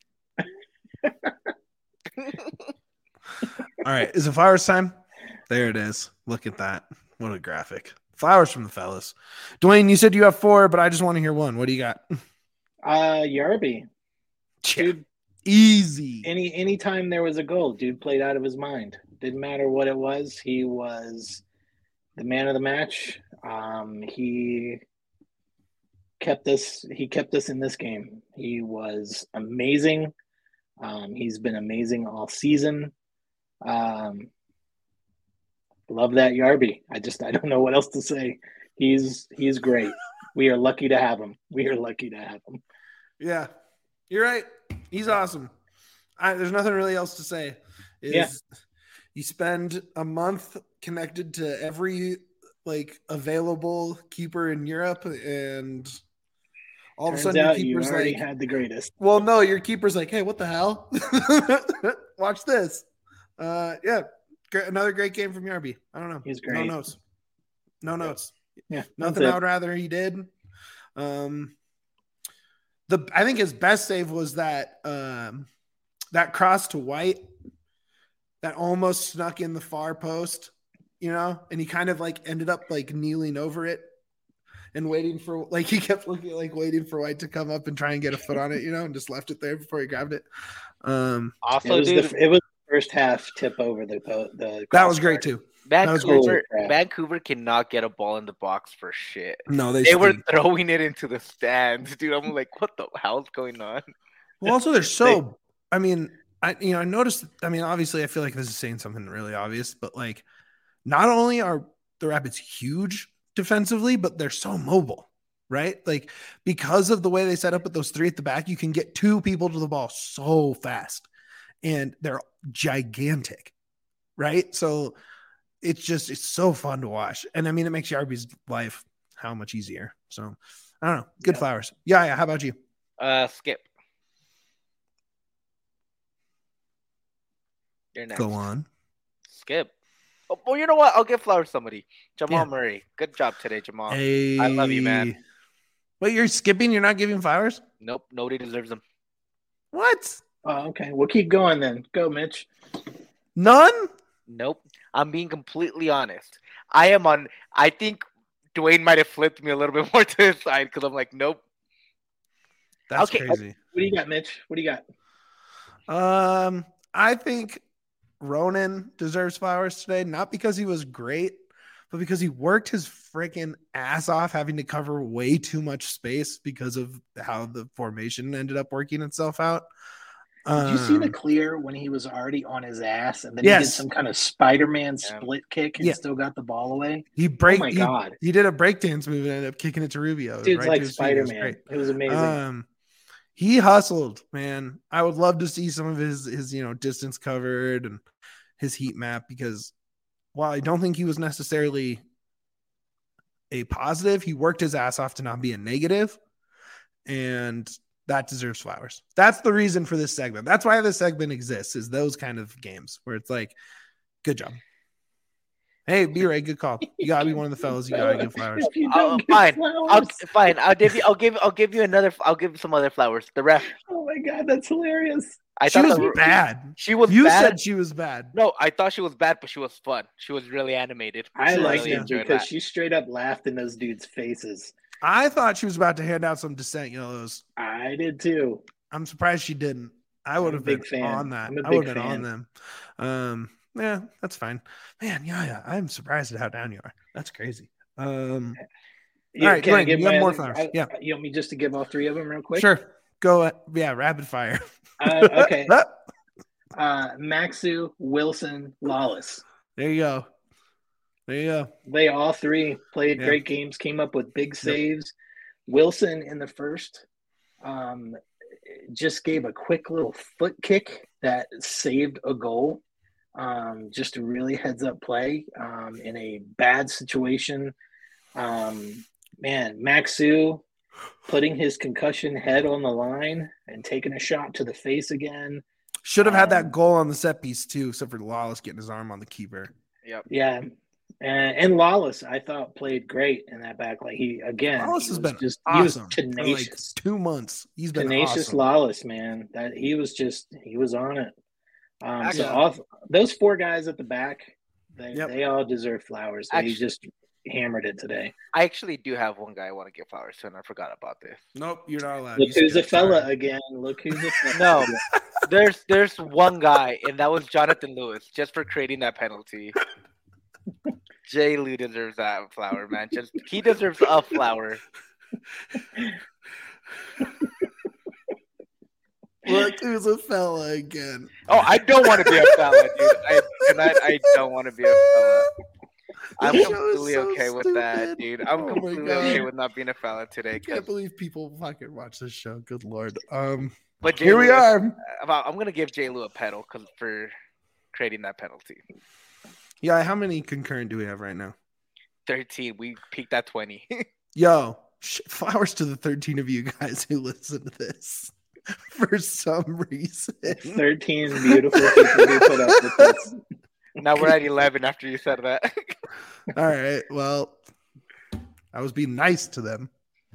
All right. Is it flowers time? There it is. Look at that. What a graphic. Flowers from the fellas. Dwayne, you said you have four, but I just want to hear one. What do you got? Uh, Yarby. Dude, Easy. any anytime there was a goal, dude played out of his mind. Didn't matter what it was. He was the man of the match. Um, he kept us. He kept us in this game. He was amazing. Um, he's been amazing all season. Um, love that Yarby. I just I don't know what else to say. He's he's great. We are lucky to have him. We are lucky to have him. Yeah, you're right. He's awesome. I, there's nothing really else to say. Is Yeah. You spend a month connected to every like available keeper in Europe, and all Turns of a sudden your out you keeper's already like, had the greatest. well, no, your keeper's like, hey, what the hell? Watch this. Uh, yeah, great, another great game from Yarby. I don't know. He's No great. notes. No notes. Yeah, Nothing that's I would rather he did. Um, the I think his best save was that um, that cross to White that almost snuck in the far post, you know, and he kind of like ended up like kneeling over it and waiting for like he kept looking like waiting for White to come up and try and get a foot on it, you know, and just left it there before he grabbed it. Um, It Also, was, dude, the, it was the first half tip over the po- the. that was great too. that was Vancouver, Holy crap. Vancouver cannot get a ball in the box for shit. No, they, They were stink. throwing it into the stands, dude. I'm like, what the hell's going on? Well, also they're so. I mean, I you know I noticed. I mean, obviously, I feel like this is saying something really obvious, but like, not only are the Rapids huge defensively, but they're so mobile. right? Like because of the way they set up with those three at the back, you can get two people to the ball so fast, and they're gigantic, right? So it's just it's so fun to watch, and I mean it makes Yarby's life how much easier. So I don't know. Good Yeah. Flowers. Yeah, yeah. How about you? Uh, Skip. You're next. Go on. Skip. Oh, well, you know what? I'll give Flowers somebody. Jamal Yeah. Murray. Good job today, Jamal. Hey. I love you, man. Wait, you're skipping? You're not giving Flowers? Nope, nobody deserves them. What? Oh, okay. We'll keep going then. Go, Mitch. None? Nope. I'm being completely honest. I am on. I think Dwayne might have flipped me a little bit more to his side because I'm like, nope. That's Okay. crazy. What do you got, Mitch? What do you got? Um, I think Ronan deserves Flowers today, not because he was great, but because he worked his freaking ass off having to cover way too much space because of how the formation ended up working itself out. Did you see the Um, clear when he was already on his ass and then Yes. he did some kind of Spider-Man Yeah. split kick and Yeah. still got the ball away? he break Oh my he, God. he did a breakdance move and ended up kicking it to Rubio. Dude's right like to his feet. It was Spider-Man. great. It was amazing. Um, he hustled, man. I would love to see some of his his you know distance covered and his heat map, because while I don't think he was necessarily a positive, he worked his ass off to not be a negative, and that deserves Flowers. That's the reason for this segment. That's why this segment exists, is those kind of games where it's like, good job. Hey, B-Ray, good call. You gotta be one of the fellas. You gotta give Flowers. If you I'll- don't give fine. flowers- I'll fine. I'll give you. I'll give. I'll give you another. I'll give you some other Flowers. The ref. Oh my God, that's hilarious. I She thought was the- bad. She was You bad. said she was bad. No, I thought she was bad, but she was fun. She was really animated. I Sure, liked really it enjoyed because that. she straight up laughed in those dudes' faces. I thought she was about to hand out some dissent yellows. I did too. I'm surprised she didn't. I would I'm a have been big fan. on that. I'm a I big would have been fan. on them. Um, yeah, that's fine. Man, yeah, yeah. I'm surprised at how down you are. That's crazy. Um, You, All right, can I Blaine, give you have my more other- flowers. I- Yeah. You want me just to give all three of them real quick? sure. Go. uh, Yeah, rapid fire. Uh, okay. Ah, Uh, Maxu, Wilson, Lawless. there you go. There you go. They all three played Yeah. great games, came up with big saves. Wilson in the first um, just gave a quick little foot kick that saved a goal. Um, just a really heads up play um, in a bad situation. Um, man, Maxu putting his concussion head on the line and taking a shot to the face again. Should have had that Um, goal on the set piece too, except for Lawless getting his arm on the keeper. Yep. Yeah. And, and Lawless, I thought, played great in that back. Like he again, Lawless he has was been just awesome he was for like tenacious, two months. He's been tenacious awesome. Lawless, man. That he was just he was on it. Um, so Actually- all those four guys at the back, they Yep. they all deserve flowers. They Actually- just hammered it today. I actually do have one guy I want to give Flowers to, and I forgot about this. Nope, you're not allowed. Look You who's a skipped. fella Sorry. again. Look who's a fella. No, there's there's one guy, and that was Jonathan Lewis, just for creating that penalty. Jay Lou deserves that flower, man. Just he deserves a flower. Look who's a fella again. Oh, I don't want to be a fella, dude. I tonight I don't want to be a fella. I'm This show is completely so okay with that, stupid. dude. I'm Oh my completely God. okay with not being a fella today. I 'cause- can't believe people fucking watch this show. Good lord. Um, But Jay here we Lou- are. About, I'm gonna give Jay Lou a pedal because for creating that penalty. Yeah, how many concurrent do we have right now? thirteen. We peaked at twenty. Yo, sh- flowers to the thirteen of you guys who listen to this for some reason. Thirteen beautiful people who put up with this. Now we're at eleven after you said that. All right. Well, I was being nice to them.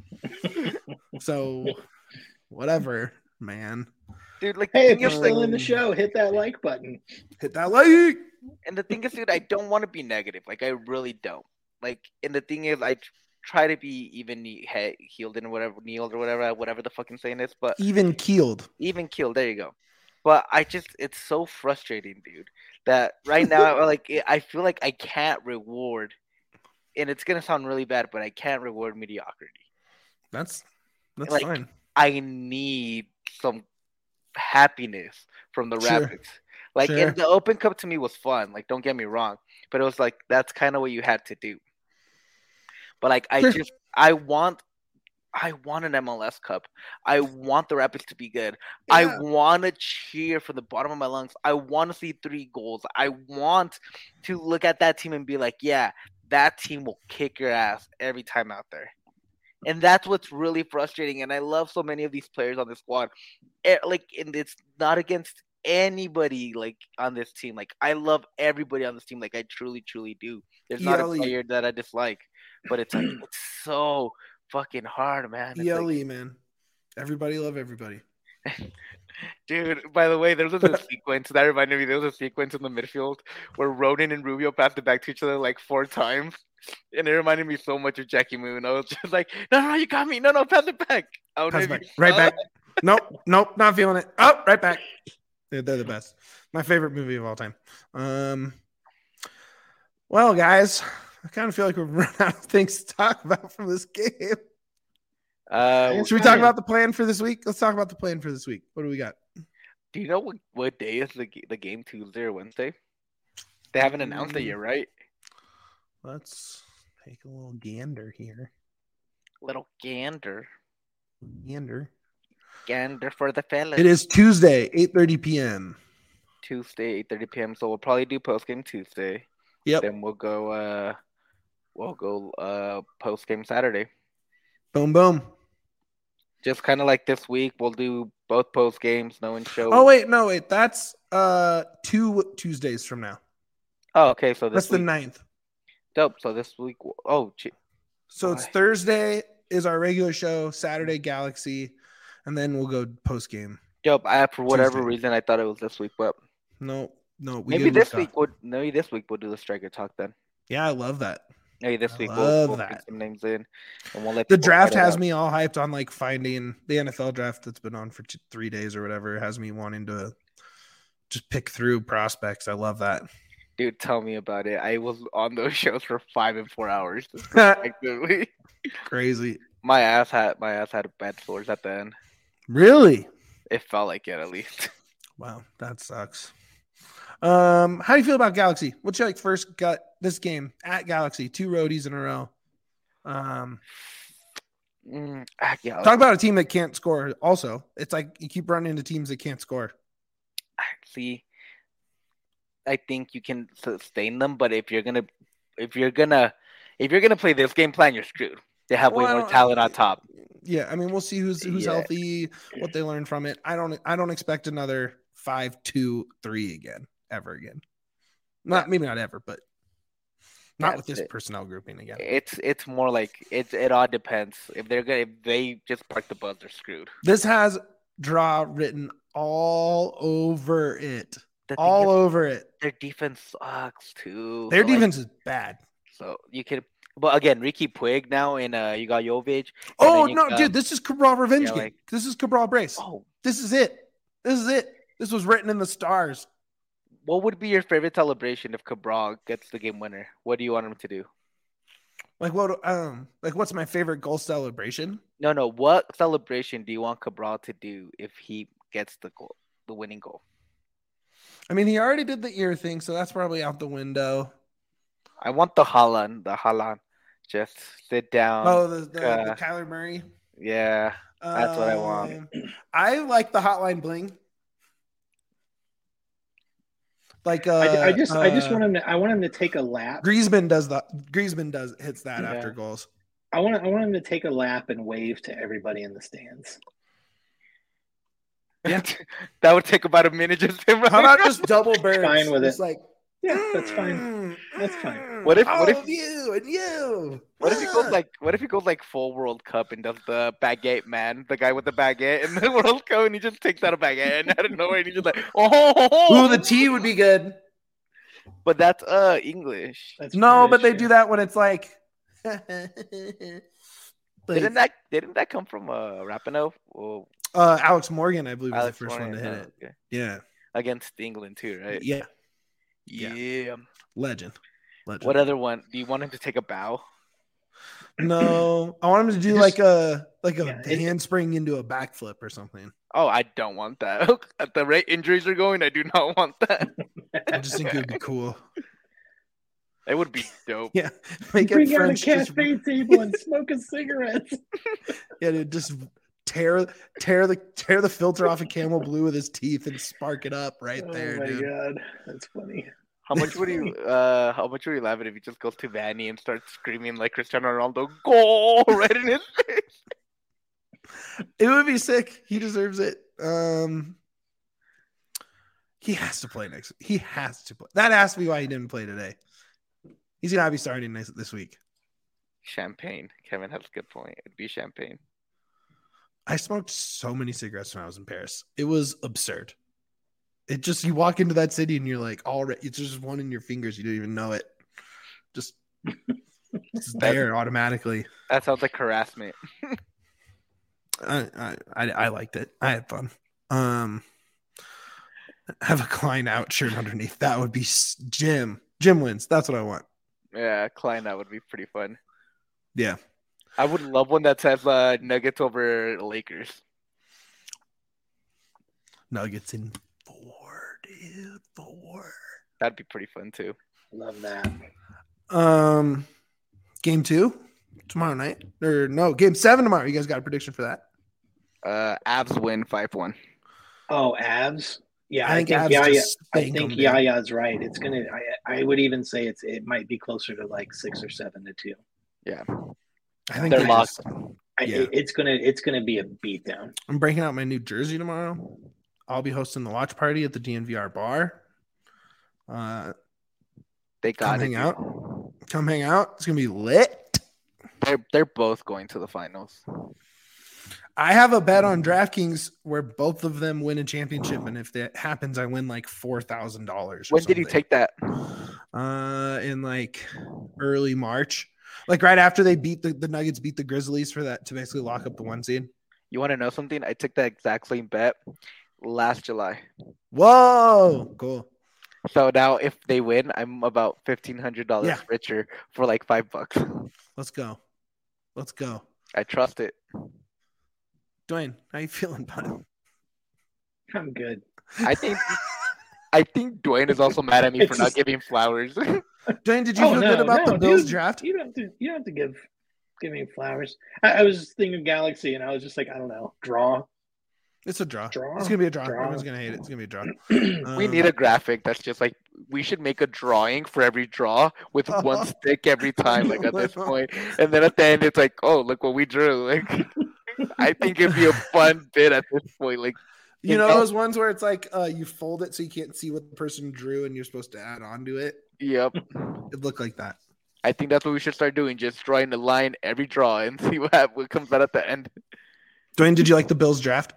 So, whatever, man. Dude, like Hey, the if thing you're is, still like, in the show, hit that like button. Hit that like. and the thing is, dude, I don't want to be negative. Like I really don't. Like, and the thing is, I tr- try to be even he- he- healed and whatever, kneeled or whatever, whatever the fucking saying is. But Even keeled. even killed. There you go. But I just, it's so frustrating, dude. That right now, like, it, I feel like I can't reward, and it's gonna sound really bad, but I can't reward mediocrity. That's that's Like, fine. I need some happiness from the Sure. Rapids. Like, Sure. and the Open Cup to me was fun. Like, don't get me wrong, but it was like that's kind of what you had to do. But like, I Sure. just I want I want an M L S Cup. I want the Rapids to be good. Yeah. I want to cheer from the bottom of my lungs. I want to see three goals. I want to look at that team and be like, yeah, that team will kick your ass every time out there. And that's what's really frustrating. And I love so many of these players on the squad. It, like, and it's not against anybody like on this team. Like, I love everybody on this team. Like, I truly, truly do. There's not Yelly. a player that I dislike, but it's like it's so fucking hard, man. It's Yelly, like, man. Everybody love everybody. Dude, by the way, there was a sequence that reminded me. There was a sequence in the midfield where Ronan and Rubio passed it back to each other like four times. And it reminded me so much of Jackie Moon. I was just like, no, no, you got me. No, no, pass it back. I pass it back. Right back. Nope, nope, not feeling it. Oh, right back. They're, they're the best. My favorite movie of all time. Um, well, guys, I kind of feel like we've run out of things to talk about from this game. Uh, Should we talk about the plan for this week? Let's talk about the plan for this week. What do we got? Do you know what, what day is the the game? Tuesday or Wednesday? They haven't announced it yet, right? Let's take a little gander here. Little gander. Gander. Gander for the fellas. It is Tuesday, eight thirty p.m. Tuesday, eight thirty p.m. So we'll probably do post game Tuesday. Yep. Then we'll go. Uh, we'll go uh, post game Saturday. Boom, boom. Just kind of like this week, we'll do both post games, no one show. Oh wait, no wait, that's uh two Tuesdays from now. Oh, okay, so this that's week, the ninth. Dope. So this week, oh, gee. So oh, it's Thursday is our regular show, Saturday Galaxy, and then we'll go post game. Dope. I for whatever Tuesday. reason I thought it was this week, but no, no. We maybe this week we'll maybe this week we'll do the striker talk then. Yeah, I love that. Hey, this I week we'll, we'll that. put some names in, and we'll let the draft has me all hyped on like finding the N F L draft that's been on for two, three days or whatever. It has me wanting to just pick through prospects. I love that. Dude, tell me about it. I was on those shows for five and four hours. Crazy. My ass had my ass had bad sores at the end. Really? It felt like it at least. Wow, that sucks. Um, how do you feel about Galaxy? What's your like first gut this game at Galaxy? Two roadies in a row. Um, mm, at Galaxy. Talk about a team that can't score. Also, it's like you keep running into teams that can't score. See, I think you can sustain them, but if you're gonna, if you're gonna, if you're gonna play this game plan, you're screwed. They have well, way more talent on top. Yeah, I mean, we'll see who's who's yeah. healthy, what they learn from it. I don't, I don't expect another five, two, three again. Ever again. Not yeah. maybe not ever, but not That's with this it. personnel grouping again. It's it's more like it it all depends. If they're gonna if they just park the bus, they're screwed. This has draw written all over it. All is, over it. Their defense sucks too. Their so defense like, is bad. So you could but again, Ricky Puig now and uh you got Jovic. Oh no, got, dude, this is Cabral revenge yeah, game. Like, this is Cabral brace. Oh, this is it. This is it. This was written in the stars. What would be your favorite celebration if Cabral gets the game winner? What do you want him to do? Like what? Um, like what's my favorite goal celebration? No, no. What celebration do you want Cabral to do if he gets the goal, the winning goal? I mean, he already did the ear thing, so that's probably out the window. I want the Haaland, the Haaland. Just sit down. Oh, the, the, uh, the Kyler Murray. Yeah, that's um, what I want. I like the Hotline Bling. Like uh, I, I just, uh, I just want him to. I want him to take a lap. Griezmann does the. Griezmann does hits that yeah. after goals. I want. I want him to take a lap and wave to everybody in the stands. Yeah, that would take about a minute. Just him. How about just double birds? Fine with just it. Like yeah, that's fine. That's fine. What if? All what if of you and you? What if he goes like? What if he goes like full World Cup and does the baguette man, the guy with the baguette in the World Cup, and he just takes out a baguette and out of nowhere, and he's just like, oh, ooh, the tea would be good. But that's uh English. That's no, British, but they yeah. do that when it's like. like didn't that didn't that come from uh Rapinoe? Oh. Uh, Alex Morgan, I believe, was Alex the first Morgan, one to hit oh, it. Okay. Yeah, against England too, right? Yeah. yeah, yeah, legend. Legend. What other one? Do you want him to take a bow? No, I want him to do Just, like a like a yeah, handspring into a backflip or something. Oh, I don't want that. At the rate injuries are going, I do not want that. I just think it would be cool. It would be dope. Yeah, make it Bring out a French. Just, cafe table and smoke a cigarette. yeah, dude, just tear tear the tear the filter off of Camel Blue with his teeth and spark it up right Oh there, my dude. god, that's funny. How much would you uh how much would you laugh at if he just goes to Vanny and starts screaming like Cristiano Ronaldo, goal right in his face? It would be sick. He deserves it. Um, he has to play next. He has to play. That has to be why he didn't play today. He's gonna be starting next this week. Champagne. Kevin has a good point. It'd be champagne. I smoked so many cigarettes when I was in Paris. It was absurd. It just you walk into that city and you're like, already it's just one in your fingers. You don't even know it. Just it's there automatically. That sounds like harassment. I, I I liked it. I had fun. Um, have a Klein out shirt underneath. That would be Jim. Jim wins. That's what I want. Yeah, Klein, that would be pretty fun. Yeah, I would love one that says uh, Nuggets over Lakers. Nuggets in four, dude. Four. That'd be pretty fun too. Love that. Um, game two tomorrow night, or no, game seven tomorrow. You guys got a prediction for that? Uh, Avs win five one. Oh, Avs. Yeah, I I think think, Avs Yaya. just I spank think them, dude. Yaya's right. It's gonna. I, I would even say it's. It might be closer to like six or seven to two. Yeah, I think they're they locked. just- I, Yeah. it- it's gonna. It's gonna be a beatdown. I'm breaking out my new jersey tomorrow. I'll be hosting the watch party at the D N V R bar. Uh, They come got hang it. out. Come hang out. It's gonna be lit. They're they're both going to the finals. I have a bet on DraftKings where both of them win a championship, and if that happens, I win like four thousand dollars. When did you take that? Uh, in like early March, like right after they beat the, the Nuggets, beat the Grizzlies for that to basically lock up the one seed. You want to know something? I took that exact same bet last July. Whoa, cool. So now if they win, I'm about fifteen hundred dollars Yeah. richer for like five bucks. Let's go. Let's go. I trust it. Dwayne, how you feeling, bud? I'm good. I think I think Dwayne is also mad at me for It's not just- giving flowers. Dwayne, did you Oh, feel no, good about no, the Bills dude. draft? You don't have to. You don't have to give give me flowers. I, I was thinking Galaxy, and I was just like, I don't know, draw. It's a draw. Draw. It's gonna be a draw. Draw. Everyone's gonna hate it. It's gonna be a draw. We Um, need a graphic that's just like we should make a drawing for every draw with one stick every time, like at this point. And then at the end, it's like, oh, look what we drew. Like, I think it'd be a fun bit at this point. Like, You know Yeah. those ones where it's like uh, you fold it so you can't see what the person drew, and you're supposed to add on to it. yep. It looked like that. I think that's what we should start doing. Just drawing a line every draw and see what hap- what comes out at the end. Dwayne, did you like the Bills draft?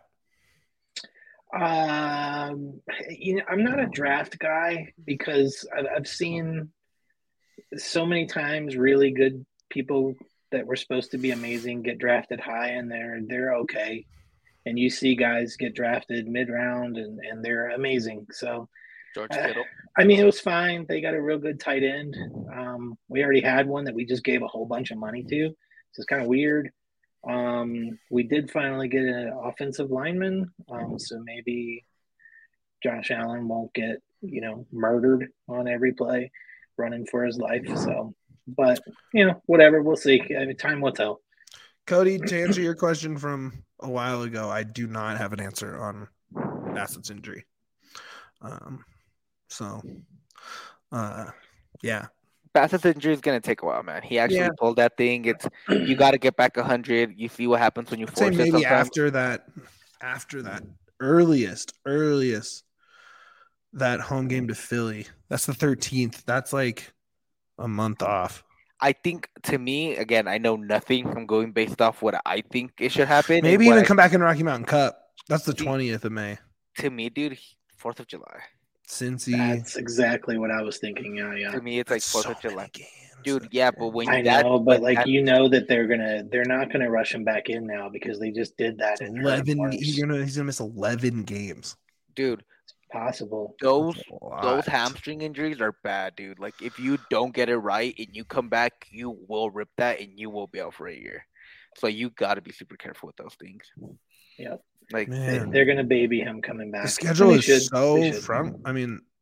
Um, you know, I'm not a draft guy because I've, I've seen so many times really good people that were supposed to be amazing get drafted high, and they're they're okay, and you see guys get drafted mid round and and they're amazing. So George Uh, Kittle. I mean, it was fine. They got a real good tight end. Um, we already had one that we just gave a whole bunch of money to, so it's kind of weird. Um, we did finally get an offensive lineman, um, so maybe Josh Allen won't get, you know, murdered on every play, running for his life. So, but you know, whatever, we'll see. I mean, time will tell. Cody, to answer your question from a while ago, I do not have an answer on Bassett's injury. Um, so, uh, yeah, Bassett's injury is gonna take a while, man. He actually Yeah. pulled that thing. It's you got to get back a hundred. You see what happens when you I'd say force it. maybe Sometimes. after that, after that earliest, earliest that home game to Philly. That's the thirteenth. That's like a month off. I think to me, again, I know nothing. I'm going based off what I think it should happen. and Maybe what even I- come back in Rocky Mountain Cup. That's the See- twentieth of May. to me, dude. Fourth of July. Cincy. That's exactly what I was thinking. Yeah, yeah. To me, it's like That's Fourth so of July. many games. Dude, That's yeah, so but when I that, know, but when like that- you know that they're gonna, they're not gonna rush him back in now because they just did that in eleven. March. He's gonna he's gonna miss eleven games. dude, Possible. those That's a lot. those hamstring injuries are bad, dude. Like if you don't get it right and you come back, you will rip that and you will be out for a year. So you got to be super careful with those things. Yep. Like They, Man, they're gonna baby him coming back. the schedule They is should. so They should. front. I mean,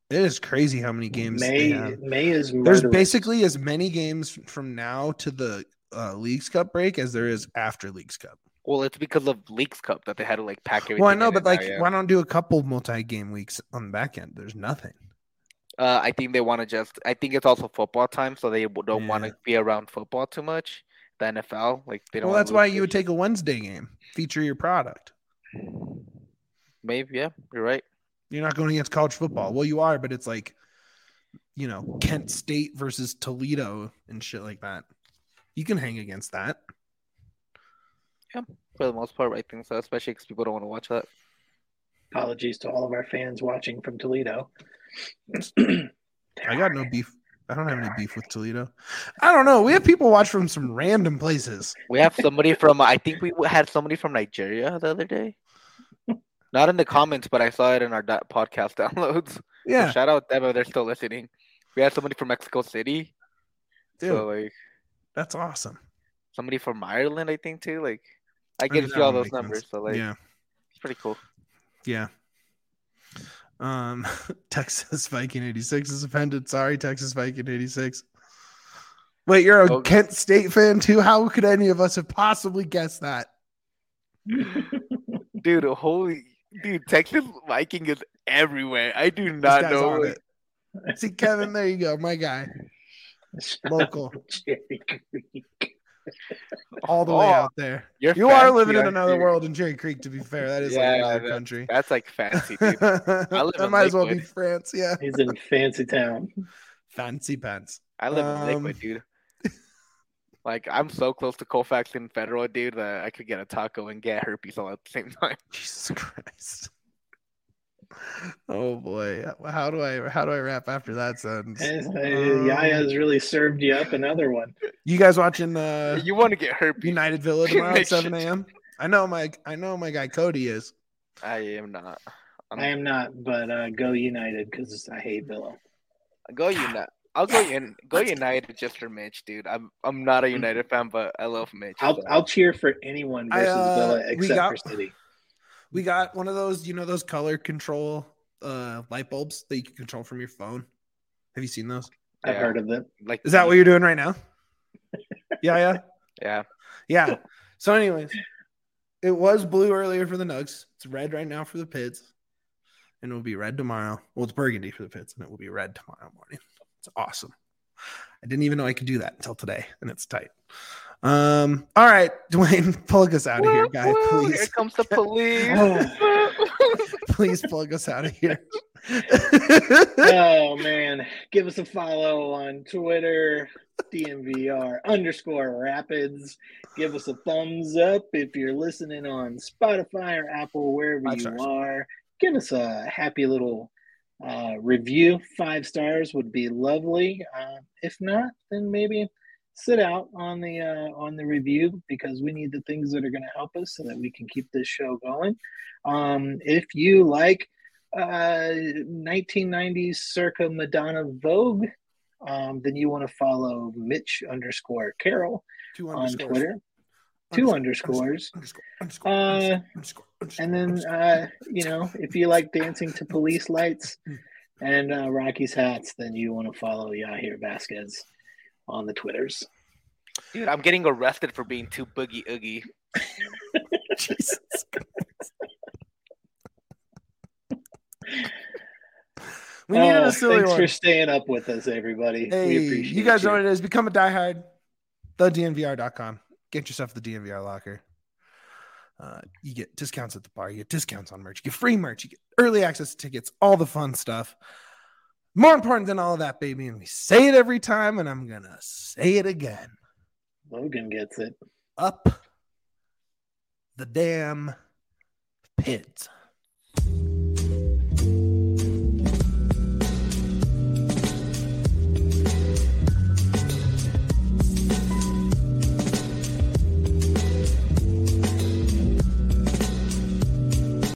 It is crazy how many games May they have. May is There's murderous. basically as many games from now to the uh, Leagues Cup break as there is after Leagues Cup. Well, it's because of Leagues Cup that they had to like pack everything. Well, I know, in but it like, now, yeah. why don't do a couple multi-game weeks on the back end? There's nothing. Uh, I think they want to just. I think it's also football time, so they don't Yeah. want to be around football too much. The N F L, like they don't. Well, wanna that's why lose you would their take a Wednesday game, feature your product. shit. Maybe, yeah, you're right. You're not going against college football. Well, you are, but it's like, you know, Kent State versus Toledo and shit like that. You can hang against that. For the most part, I think so. Especially because people don't want to watch that. Apologies to all of our fans watching from Toledo. I got no beef. I don't have any beef with Toledo. I don't know. We have people watch from some random places. We have somebody from. I think we had somebody from Nigeria the other day. Not in the comments, but I saw it in our da- podcast downloads. Yeah, So shout out them if they're still listening. We had somebody from Mexico City. dude, So like that's awesome. somebody from Ireland, I think too. Like I I get mean, to that see all would those make numbers. sense. So like yeah, it's pretty cool. yeah. Um, Texas Viking eighty-six is offended. Sorry, Texas Viking eighty-six. Wait, you're a Oh. Kent State fan too? How could any of us have possibly guessed that? Dude, holy dude, Texas Viking is everywhere. I do This not guy's know. on like- it. See, Kevin, there you go, my guy, local, Cherry Creek. all the way Oh, out there. You're You are fancy, living in aren't another you? world in Cherry Creek. To be fair, that is Yeah, like another that- country. That's like fancy, dude. that live in might as well be Lakewood. France. Yeah, He's in fancy town. fancy pants. I live Um, in Lakewood, dude. Like I'm so close to Colfax and Federal, dude, that I could get a taco and get herpes all at the same time. Jesus Christ. Oh boy, how do I how do I wrap after that sentence? Uh, Yaya's really served you up another one. You guys watching uh, You want to get herpes? United Villa tomorrow at Make sure- seven a.m.? I know my I know my guy Cody is. I am not. I'm, I am not, but uh, go United because I hate Villa. Go United. I'll go in. Go United just for Mitch, dude. I'm I'm not a United fan, but I love Mitch. I'll so. I'll cheer for anyone I, versus uh, Villa we except got- for City. We got one of those, you know, those color control uh light bulbs that you can control from your phone. Have you seen those? I've Yeah. heard of them. Like, Is that what you're doing right now? Yeah, yeah. Yeah. Yeah. So, anyways, it was blue earlier for the Nugs. It's red right now for the Pids. And it will be red tomorrow. Well, it's burgundy for the Pids, and it will be red tomorrow morning. It's awesome. I didn't even know I could do that until today, and it's tight. Um, all right, Dwayne, plug us out of here, guy, Woo, woo, please. Here comes the police. Please plug us out of here. Oh man, give us a follow on Twitter, D M V R underscore Rapids. Give us a thumbs up if you're listening on Spotify or Apple, wherever Five you stars. are. Give us a happy little uh, review. Five stars would be lovely. Uh, if not, then maybe sit out on the uh, on the review because we need the things that are going to help us so that we can keep this show going. Um, if you like uh, nineteen nineties circa Madonna Vogue, um, then you want to follow Mitch underscore Carroll Two on underscores. Twitter. Two Underscore, underscores. Underscore, underscore, Uh, underscore, underscore, And then, underscore. uh, you know, if you like dancing to police lights and uh, Rocky's hats, then you want to follow Yahir Vasquez on the Twitters. Dude, I'm getting arrested for being too boogie oogie. Jesus Christ. We needed Oh, a silly thanks one. for staying up with us, everybody. Hey, we appreciate you guys know what it is. Become a diehard. the D N V R dot com. Get yourself the D N V R locker. Uh, you get discounts at the bar. You get discounts on merch. You get free merch. You get early access to tickets. All the fun stuff. More important than all of that, baby. And we say it every time, and I'm going to say it again. Logan gets it. Up the damn Pids.